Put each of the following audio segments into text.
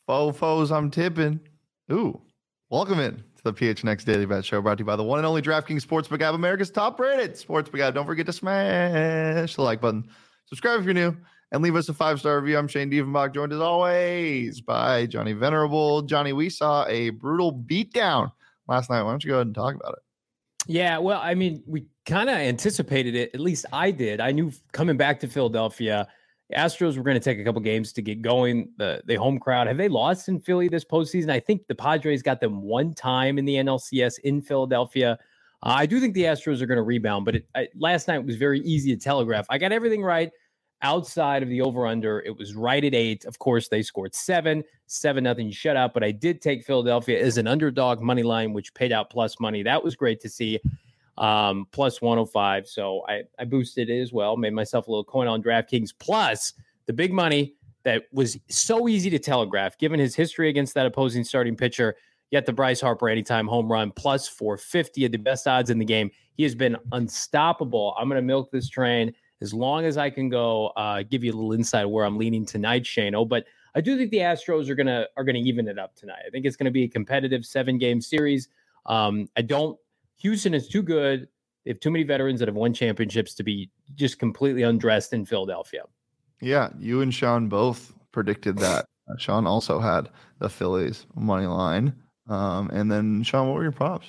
Fofos, I'm tipping. Ooh, welcome in to the PHNX Daily Bet Show, brought to you by the one and only DraftKings Sportsbook app, America's top-rated sportsbook app. Don't forget to smash the like button, subscribe if you're new, and leave us a 5-star review. I'm Shane Diefenbach, joined as always by Johnny Venerable. Johnny, we saw a brutal beatdown last night. Why don't you go ahead and talk about it? Yeah, well, I mean, we kind of anticipated it. At least I did. I knew coming back to Philadelphia, Astros were going to take a couple games to get going. The home crowd, have they lost in Philly this postseason? I think the Padres got them one time in the NLCS in Philadelphia. I do think the Astros are going to rebound, but last night was very easy to telegraph. I got everything right outside of the over-under. It was right at 8. Of course, they scored 7-0 shutout, but I did take Philadelphia as an underdog money line, which paid out plus money. That was great to see. Plus 105. So I boosted it as well, made myself a little coin on DraftKings. Plus the big money that was so easy to telegraph, given his history against that opposing starting pitcher. Yet the Bryce Harper anytime home run plus 450 at the best odds in the game. He has been unstoppable. I'm going to milk this train as long as I can go. Give you a little insight where I'm leaning tonight, Shano. But I do think the Astros are gonna even it up tonight. I think it's going to be a competitive 7-game series. Houston is too good. They have too many veterans that have won championships to be just completely undressed in Philadelphia. Yeah, you and Sean both predicted that. Sean also had the Phillies money line. And then, Sean, what were your props?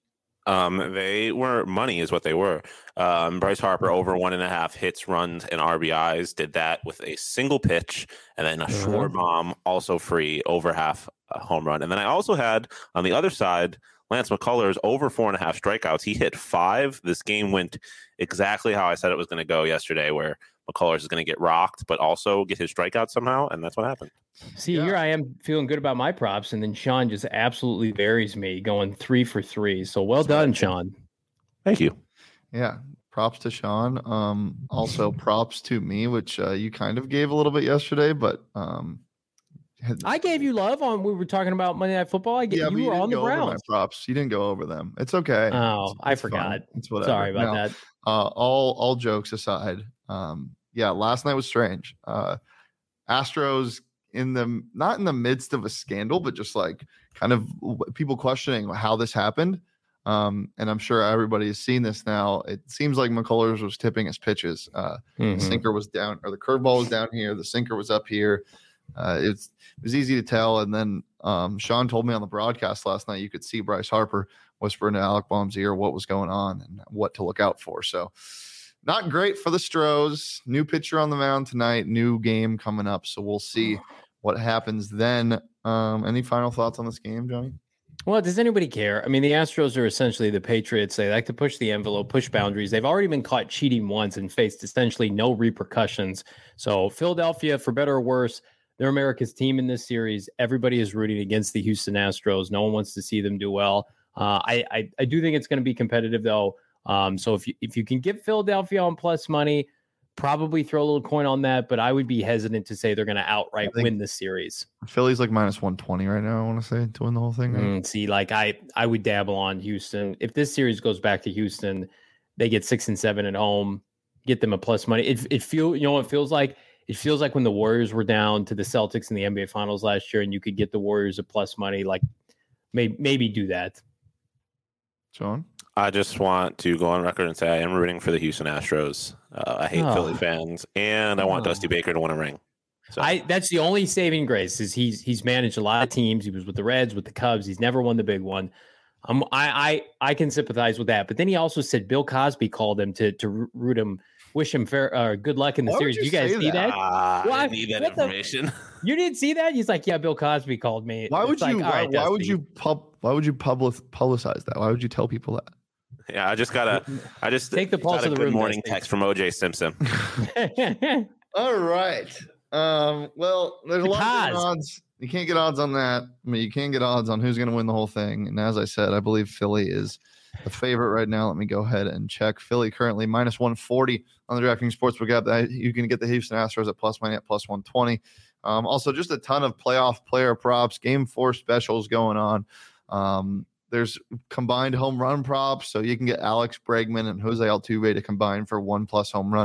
They were money is what they were. Bryce Harper over 1.5 hits, runs, and RBIs. Did that with a single pitch, and then a short bomb, also free, over half a home run. And then I also had, on the other side, Lance McCullers over 4.5 strikeouts. He hit 5. This game went exactly how I said it was going to go yesterday, where McCullers is going to get rocked, but also get his strikeout somehow, and that's what happened. See, Here I am feeling good about my props, and then Sean just absolutely buries me, going 3 for 3. So well done, Sean. Thank you. Yeah, props to Sean. Also props to me, which you kind of gave a little bit yesterday, but I gave you love on. We were talking about Monday Night Football. You were on the Browns. Props. You didn't go over them. It's okay. Oh, I forgot. Fine. It's whatever. Sorry about that. All jokes aside, last night was strange. Astros not in the midst of a scandal, but just like kind of people questioning how this happened. And I'm sure everybody has seen this now. It seems like McCullers was tipping his pitches. The sinker was down, or the curveball was down here. The sinker was up here. It was easy to tell. And then Sean told me on the broadcast last night, you could see Bryce Harper whispering to Alec Baum's ear what was going on and what to look out for. So not great for the Stros. New pitcher on the mound tonight, new game coming up. So we'll see what happens then. Any final thoughts on this game, Johnny? Well, does anybody care? I mean, the Astros are essentially the Patriots. They like to push the envelope, push boundaries. They've already been caught cheating once and faced essentially no repercussions. So Philadelphia, for better or worse, they're America's team in this series. Everybody is rooting against the Houston Astros. No one wants to see them do well. I do think it's going to be competitive, though. So if you can get Philadelphia on plus money, probably throw a little coin on that. But I would be hesitant to say they're going to outright win the series. Philly's like minus 120 right now, I want to say, to win the whole thing. Right? See, like I would dabble on Houston. If this series goes back to Houston, they get 6 and 7 at home, get them a plus money. It feels like when the Warriors were down to the Celtics in the NBA Finals last year, and you could get the Warriors a plus money. Like maybe do that. Sean, I just want to go on record and say I am rooting for the Houston Astros. I hate Philly fans, and I want Dusty Baker to win a ring. So. That's the only saving grace is he's managed a lot of teams. He was with the Reds, with the Cubs. He's never won the big one. I can sympathize with that. But then he also said Bill Cosby called him to root him, wish him good luck in the series. You guys see that? I didn't need that information. You didn't see that? He's like, yeah, Bill Cosby called me. Why would you publicize that? Why would you tell people that? Yeah, I just take the pulse of the good room. Morning text from OJ Simpson. All right. Well, there's a lot of odds. You can't get odds on that. I mean, you can't get odds on who's going to win the whole thing. And as I said, I believe Philly is the favorite right now. Let me go ahead and check. Philly currently minus 140 on the DraftKings Sportsbook app. You can get the Houston Astros at plus money at plus 120. Also, just a ton of playoff player props, Game 4 specials going on. There's combined home run props, so you can get Alex Bregman and Jose Altuve to combine for 1+ home run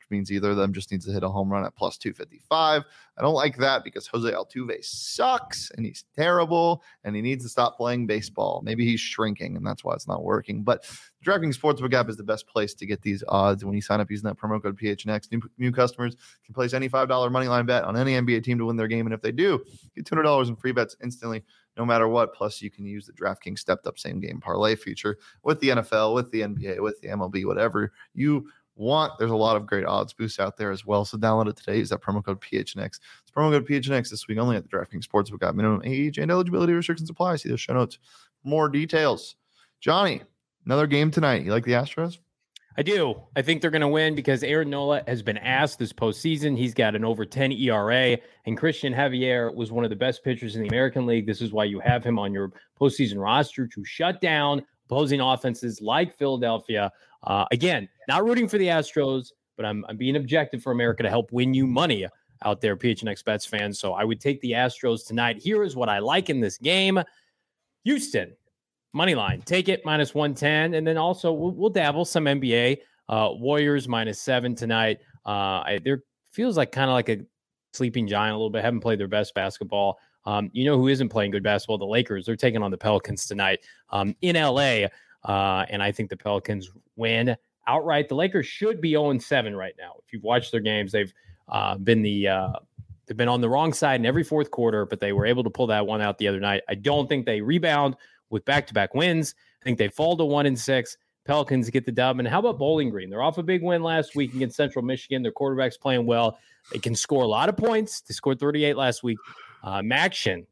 means either of them just needs to hit a home run at plus 255. I don't like that because Jose Altuve sucks and he's terrible and he needs to stop playing baseball. Maybe he's shrinking and that's why it's not working. But DraftKings Sportsbook app is the best place to get these odds. When you sign up using that promo code PHNX, new customers can place any $5 money line bet on any NBA team to win their game. And if they do, get $200 in free bets instantly, no matter what. Plus, you can use the DraftKings stepped up same game parlay feature with the NFL, with the NBA, with the MLB, whatever you want. There's a lot of great odds boosts out there as well. So download it today. Use that promo code PHNX. It's promo code PHNX this week only at the DraftKings Sportsbook app. Minimum age and eligibility restrictions apply. See the show notes for more details. Johnny, another game tonight. You like the Astros? I do. I think they're going to win because Aaron Nola has been asked this postseason. He's got an over 10 ERA, and Christian Javier was one of the best pitchers in the American League. This is why you have him on your postseason roster to shut down opposing offenses like Philadelphia. Again, not rooting for the Astros, but I'm being objective for America to help win you money out there, PHNX Bets fans. So I would take the Astros tonight. Here is what I like in this game. Houston. Money line, take it minus 110. And then also we'll dabble some NBA. Warriors -7 tonight. There feels like kind of like a sleeping giant a little bit. Haven't played their best basketball. You know who isn't playing good basketball? The Lakers. They're taking on the Pelicans tonight in LA. And I think the Pelicans win outright. The Lakers should be 0-7 right now. If you've watched their games, they've been on the wrong side in every fourth quarter, but they were able to pull that one out the other night. I don't think they rebound with back-to-back wins. I think they fall to 1-6. Pelicans get the dub. And how about Bowling Green? They're off a big win last week against Central Michigan. Their quarterback's playing well. They can score a lot of points. They scored 38 last week. Maction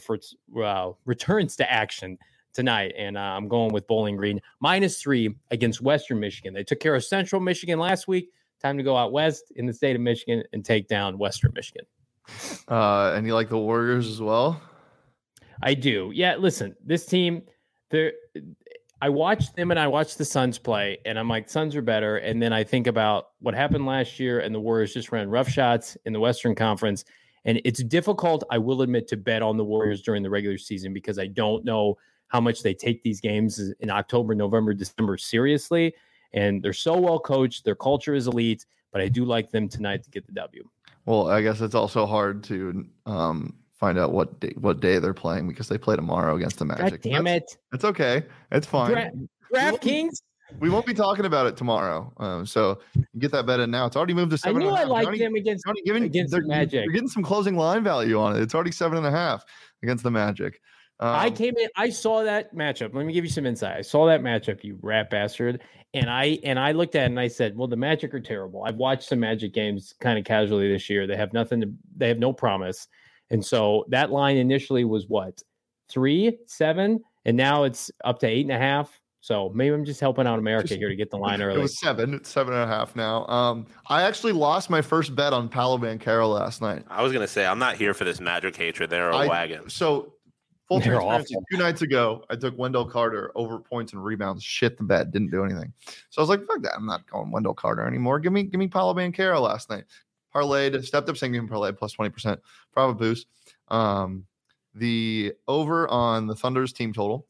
returns to action tonight, and I'm going with Bowling Green -3 against Western Michigan. They took care of Central Michigan last week. Time to go out west in the state of Michigan and take down Western Michigan. And you like the Warriors as well? I do. Yeah, listen, this team, I watched them and I watched the Suns play, and I'm like, Suns are better. And then I think about what happened last year, and the Warriors just ran rough shots in the Western Conference. And it's difficult, I will admit, to bet on the Warriors during the regular season because I don't know how much they take these games in October, November, December seriously. And they're so well coached. Their culture is elite, but I do like them tonight to get the W. Well, I guess it's also hard to find out what day they're playing because they play tomorrow against the Magic. God damn it. It's okay. It's fine. DraftKings? We won't be talking about it tomorrow. So you get that bet in now. It's already moved to 7.5. I knew I liked them against the Magic. You're getting some closing line value on it. It's already 7.5 against the Magic. I came in, I saw that matchup. Let me give you some insight. I saw that matchup, you rat bastard. And I looked at it and I said, well, the Magic are terrible. I've watched some Magic games kind of casually this year. They have they have no promise. And so that line initially was what? 3, 7, and now it's up to 8.5. So maybe I'm just helping out America here to get the line early. It was 7. It's 7.5 now. I actually lost my first bet on Paolo Banchero last night. I was going to say, I'm not here for this Magic hatred. They're a wagon. So full transparency, 2 nights ago, I took Wendell Carter over points and rebounds. Shit the bet. Didn't do anything. So I was like, fuck that. I'm not going Wendell Carter anymore. Give me Paolo Banchero last night. Parlayed, stepped up single parlay plus 20%. Bravo boost. The over on the Thunder's team total.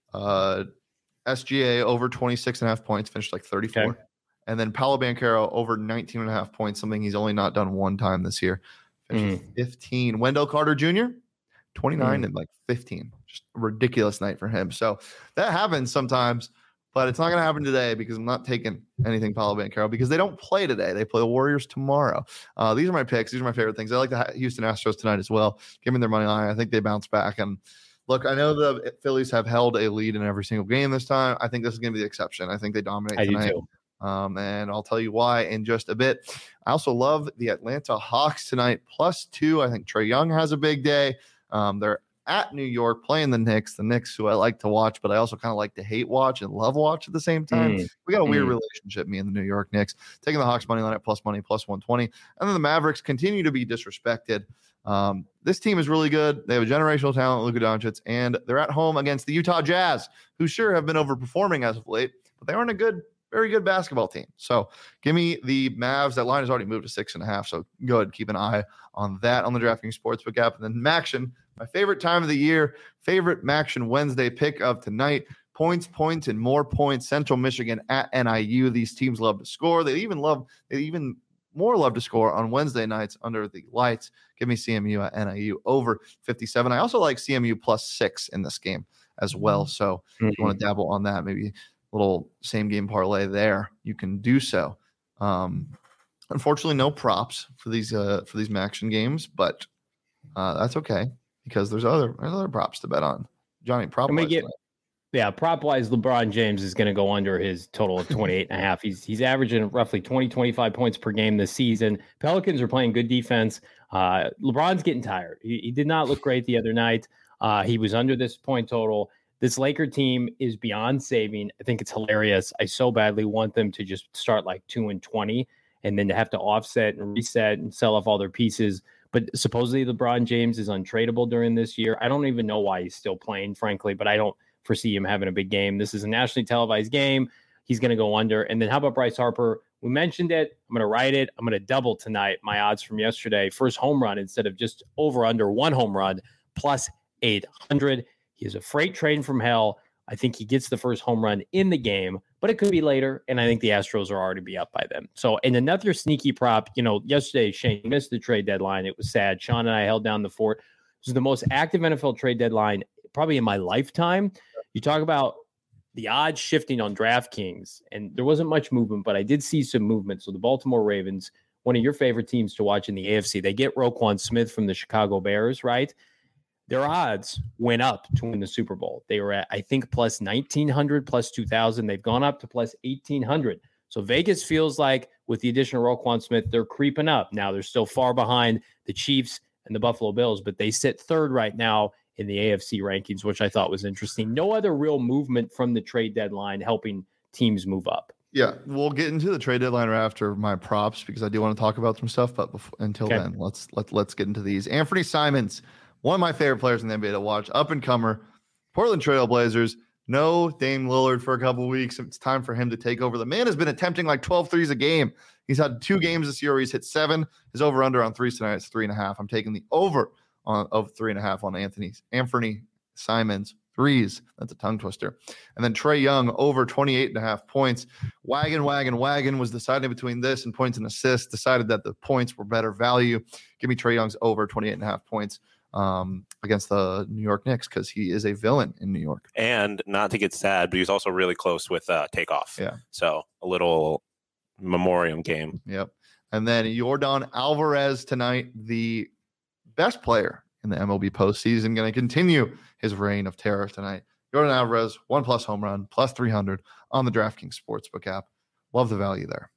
SGA over 26.5 points, finished like 34. Okay. And then Paolo Banchero over 19.5 points, something he's only not done one time this year. Finished 15. Wendell Carter Jr., 29 and like 15. Just a ridiculous night for him. So that happens sometimes, but it's not going to happen today because I'm not taking anything Paolo Banchero because they don't play today. They play the Warriors tomorrow. These are my picks. These are my favorite things. I like the Houston Astros tonight as well. Give me their money line. I think they bounce back. And look, I know the Phillies have held a lead in every single game this time. I think this is going to be the exception. I think they dominate tonight. Do too. And I'll tell you why in just a bit. I also love the Atlanta Hawks tonight, +2. I think Trae Young has a big day. They're at New York playing the Knicks, who I like to watch, but I also kind of like to hate watch and love watch at the same time. We got a weird relationship, me and the New York Knicks. Taking the Hawks money line at plus money, +120. And then the Mavericks continue to be disrespected. This team is really good. They have a generational talent, Luka Doncic, and they're at home against the Utah Jazz, who sure have been overperforming as of late, but they aren't a very good basketball team. So give me the Mavs. That line has already moved to 6.5. So go ahead, keep an eye on that on the DraftKings Sportsbook app. And then Maction, my favorite time of the year, favorite Maction Wednesday pick of tonight. Points, and more points. Central Michigan at NIU. These teams love to score. They even more love to score on Wednesday nights under the lights. Give me CMU at NIU over 57. I also like CMU +6 in this game as well. So if you want to dabble on that, maybe a little same game parlay there, you can do so. Unfortunately, no props for these action games, but that's okay because there's other props to bet on. Johnny, prop prop-wise, LeBron James is going to go under his total of 28.5. He's averaging roughly 25 points per game this season. Pelicans are playing good defense. LeBron's getting tired. He did not look great the other night. He was under this point total. This Laker team is beyond saving. I think it's hilarious. I so badly want them to just start like 2-20 and then to have to offset and reset and sell off all their pieces. But supposedly LeBron James is untradeable during this year. I don't even know why he's still playing, frankly, but I don't foresee him having a big game. This is a nationally televised game. He's going to go under. And then how about Bryce Harper? We mentioned it. I'm going to write it. I'm going to double tonight my odds from yesterday. First home run instead of just over under one home run plus 800. He is a freight train from hell. I think he gets the first home run in the game, but it could be later. And I think the Astros are already be up by then. So, and another sneaky prop, yesterday Shane missed the trade deadline. It was sad. Sean and I held down the fort. This is the most active NFL trade deadline probably in my lifetime. You talk about the odds shifting on DraftKings, and there wasn't much movement, but I did see some movement. So the Baltimore Ravens, one of your favorite teams to watch in the AFC, they get Roquan Smith from the Chicago Bears, right? Their odds went up to win the Super Bowl. They were at, I think, plus 1,900, plus 2,000. They've gone up to plus 1,800. So Vegas feels like with the addition of Roquan Smith, they're creeping up. Now they're still far behind the Chiefs and the Buffalo Bills, but they sit third right now in the AFC rankings, which I thought was interesting. No other real movement from the trade deadline helping teams move up. Yeah, we'll get into the trade deadline right after my props because I do want to talk about some stuff. But until then, let's get into these. Anthony Simons, one of my favorite players in the NBA to watch, up and comer, Portland Trail Blazers. No Dame Lillard for a couple of weeks. It's time for him to take over. The man has been attempting like 12 threes a game. He's had 2 games this year where he's hit 7. His over under on threes tonight is 3.5. I'm taking the over of 3.5 on Anthony Simons threes. That's a tongue twister. And then Trae Young over 28.5 points. Wagon was deciding between this and points and assists. Decided that the points were better value. Give me Trae Young's over 28.5 points against the New York Knicks because he is a villain in New York. And not to get sad, but he's also really close with Takeoff. Yeah. So a little memoriam game. Yep. And then Yordan Alvarez tonight, the best player in the MLB postseason, going to continue his reign of terror tonight. Yordan Alvarez, 1+ home run, plus 300 on the DraftKings Sportsbook app. Love the value there.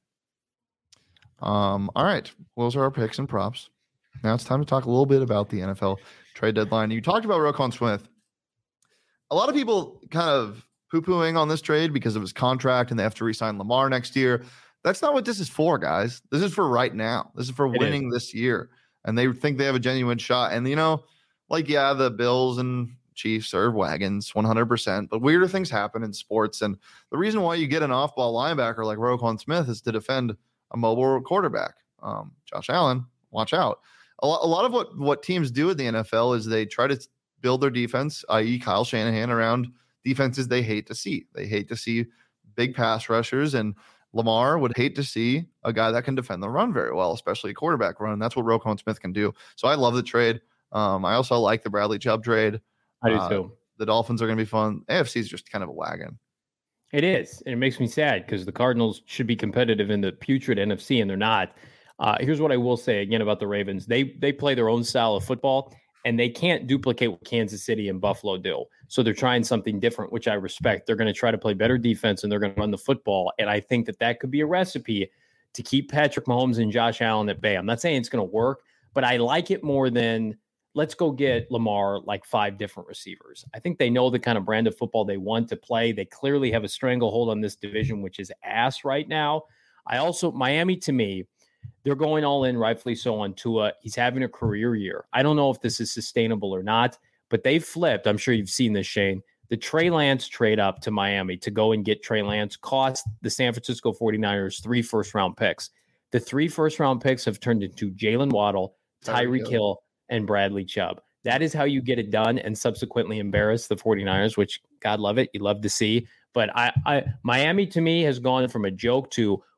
All right. Those are our picks and props. Now it's time to talk a little bit about the NFL trade deadline. You talked about Roquan Smith. A lot of people kind of poo-pooing on this trade because of his contract and they have to re-sign Lamar next year. That's not what this is for, guys. This is for right now. This is for winning this year. And they think they have a genuine shot. And, the Bills and Chiefs are wagons 100%. But weirder things happen in sports. And the reason why you get an off-ball linebacker like Roquan Smith is to defend a mobile quarterback. Josh Allen, watch out. A lot of what teams do in the NFL is they try to build their defense, i.e. Kyle Shanahan, around defenses they hate to see. They hate to see big pass rushers, and Lamar would hate to see a guy that can defend the run very well, especially a quarterback run. That's what Roquan Smith can do. So I love the trade. I also like the Bradley Chubb trade. I do too. The Dolphins are going to be fun. AFC is just kind of a wagon. It is. And it makes me sad because the Cardinals should be competitive in the putrid NFC, and they're not. Here's what I will say again about the Ravens. They play their own style of football, and they can't duplicate what Kansas City and Buffalo do. So they're trying something different, which I respect. They're going to try to play better defense, and they're going to run the football. And I think that could be a recipe to keep Patrick Mahomes and Josh Allen at bay. I'm not saying it's going to work, but I like it more than let's go get Lamar like 5 different receivers. I think they know the kind of brand of football they want to play. They clearly have a stranglehold on this division, which is ass right now. Miami, to me, they're going all in, rightfully so, on Tua. He's having a career year. I don't know if this is sustainable or not, but they've flipped. I'm sure you've seen this, Shane. The Trey Lance trade up to Miami to go and get Trey Lance cost the San Francisco 49ers 3 first-round picks. The 3 first-round picks have turned into Jalen Waddle, Tyreek Hill, and Bradley Chubb. That is how you get it done and subsequently embarrass the 49ers, which, God love it, you love to see. But Miami, to me, has gone from a joke to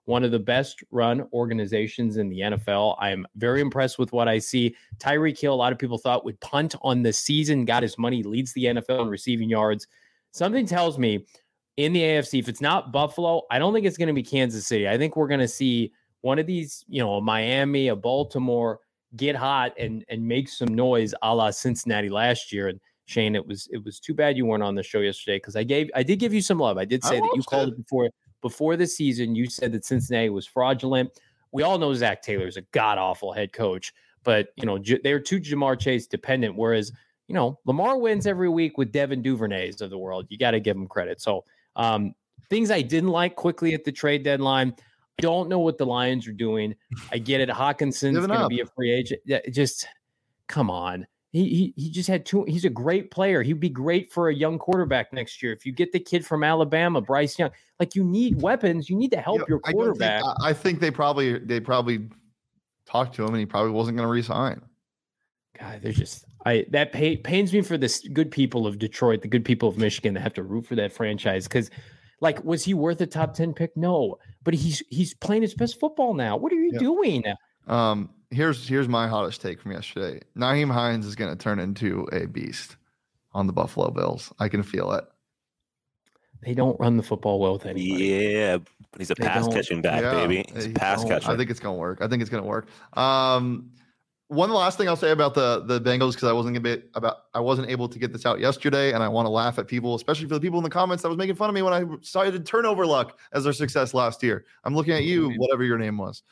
one of the best run organizations in the NFL. I am very impressed with what I see. Tyreek Hill, a lot of people thought would punt on the season, got his money, leads the NFL in receiving yards. Something tells me in the AFC, if it's not Buffalo, I don't think it's going to be Kansas City. I think we're going to see one of these, a Miami, a Baltimore get hot and make some noise a la Cincinnati last year. And Shane, it was too bad you weren't on the show yesterday because I did give you some love. I did say that you called it before the season. You said that Cincinnati was fraudulent. We all know Zach Taylor's a god-awful head coach, but they're too Jamar Chase dependent. Whereas, Lamar wins every week with Devin Duvernays of the world. You got to give him credit. So things I didn't like quickly at the trade deadline. I don't know what the Lions are doing. I get it. Hawkinson's going to be a free agent. Just come on. He just had two. He's a great player. He'd be great for a young quarterback next year. If you get the kid from Alabama, Bryce Young, you need weapons. You need to help your quarterback. I think they probably talked to him and he probably wasn't going to resign. God, they're just that pains me for the good people of Detroit, the good people of Michigan that have to root for that franchise because. Was he worth a top 10 pick? No, but he's playing his best football now. What are you doing? Here's my hottest take from yesterday. Nyheim Hines is going to turn into a beast on the Buffalo Bills. I can feel it. They don't run the football well with anybody. Yeah, but he's a pass catching back, baby. He's a pass catcher. I think it's going to work. One last thing I'll say about the Bengals because I wasn't able to get this out yesterday, and I want to laugh at people, especially for the people in the comments that was making fun of me when I cited turnover luck as their success last year. I'm looking at you, whatever your name was.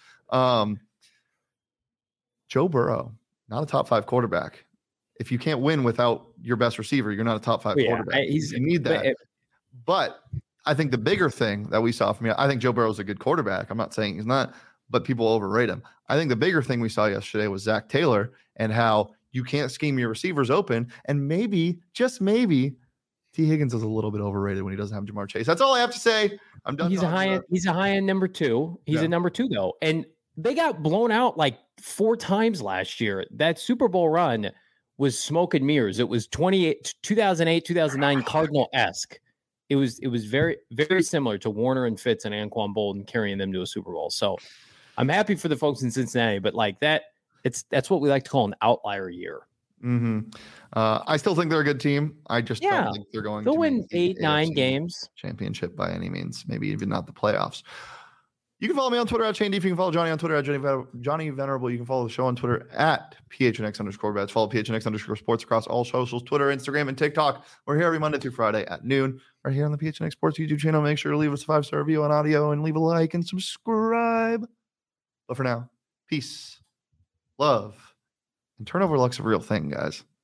Joe Burrow, not a top 5 quarterback. If you can't win without your best receiver, you're not a top 5 quarterback. You need that. But I think the bigger thing that we saw from you, I think Joe Burrow is a good quarterback. I'm not saying he's not. But people overrate him. I think the bigger thing we saw yesterday was Zach Taylor and how you can't scheme your receivers open. And maybe, just maybe, T. Higgins is a little bit overrated when he doesn't have Jamar Chase. That's all I have to say. I'm done. He's a high end number 2. He's a number 2 though. And they got blown out 4 times last year. That Super Bowl run was smoke and mirrors. It was 2008, 2009 Cardinal-esque. It was very, very similar to Warner and Fitz and Anquan Bolden carrying them to a Super Bowl. So I'm happy for the folks in Cincinnati, but that's what we like to call an outlier year. Mm-hmm. I still think they're a good team. I just don't think they're going to win 8-9 games championship by any means. Maybe even not the playoffs. You can follow me on Twitter at Shane Deef. You can follow Johnny on Twitter at Johnny Venerable. You can follow the show on Twitter at PHNX_bets. Follow PHNX_sports across all socials, Twitter, Instagram, and TikTok. We're here every Monday through Friday at noon. Right here on the PHNX Sports YouTube channel. Make sure to leave us a 5-star review on audio and leave a like and subscribe. But for now, peace, love, and turnover luck's a real thing, guys.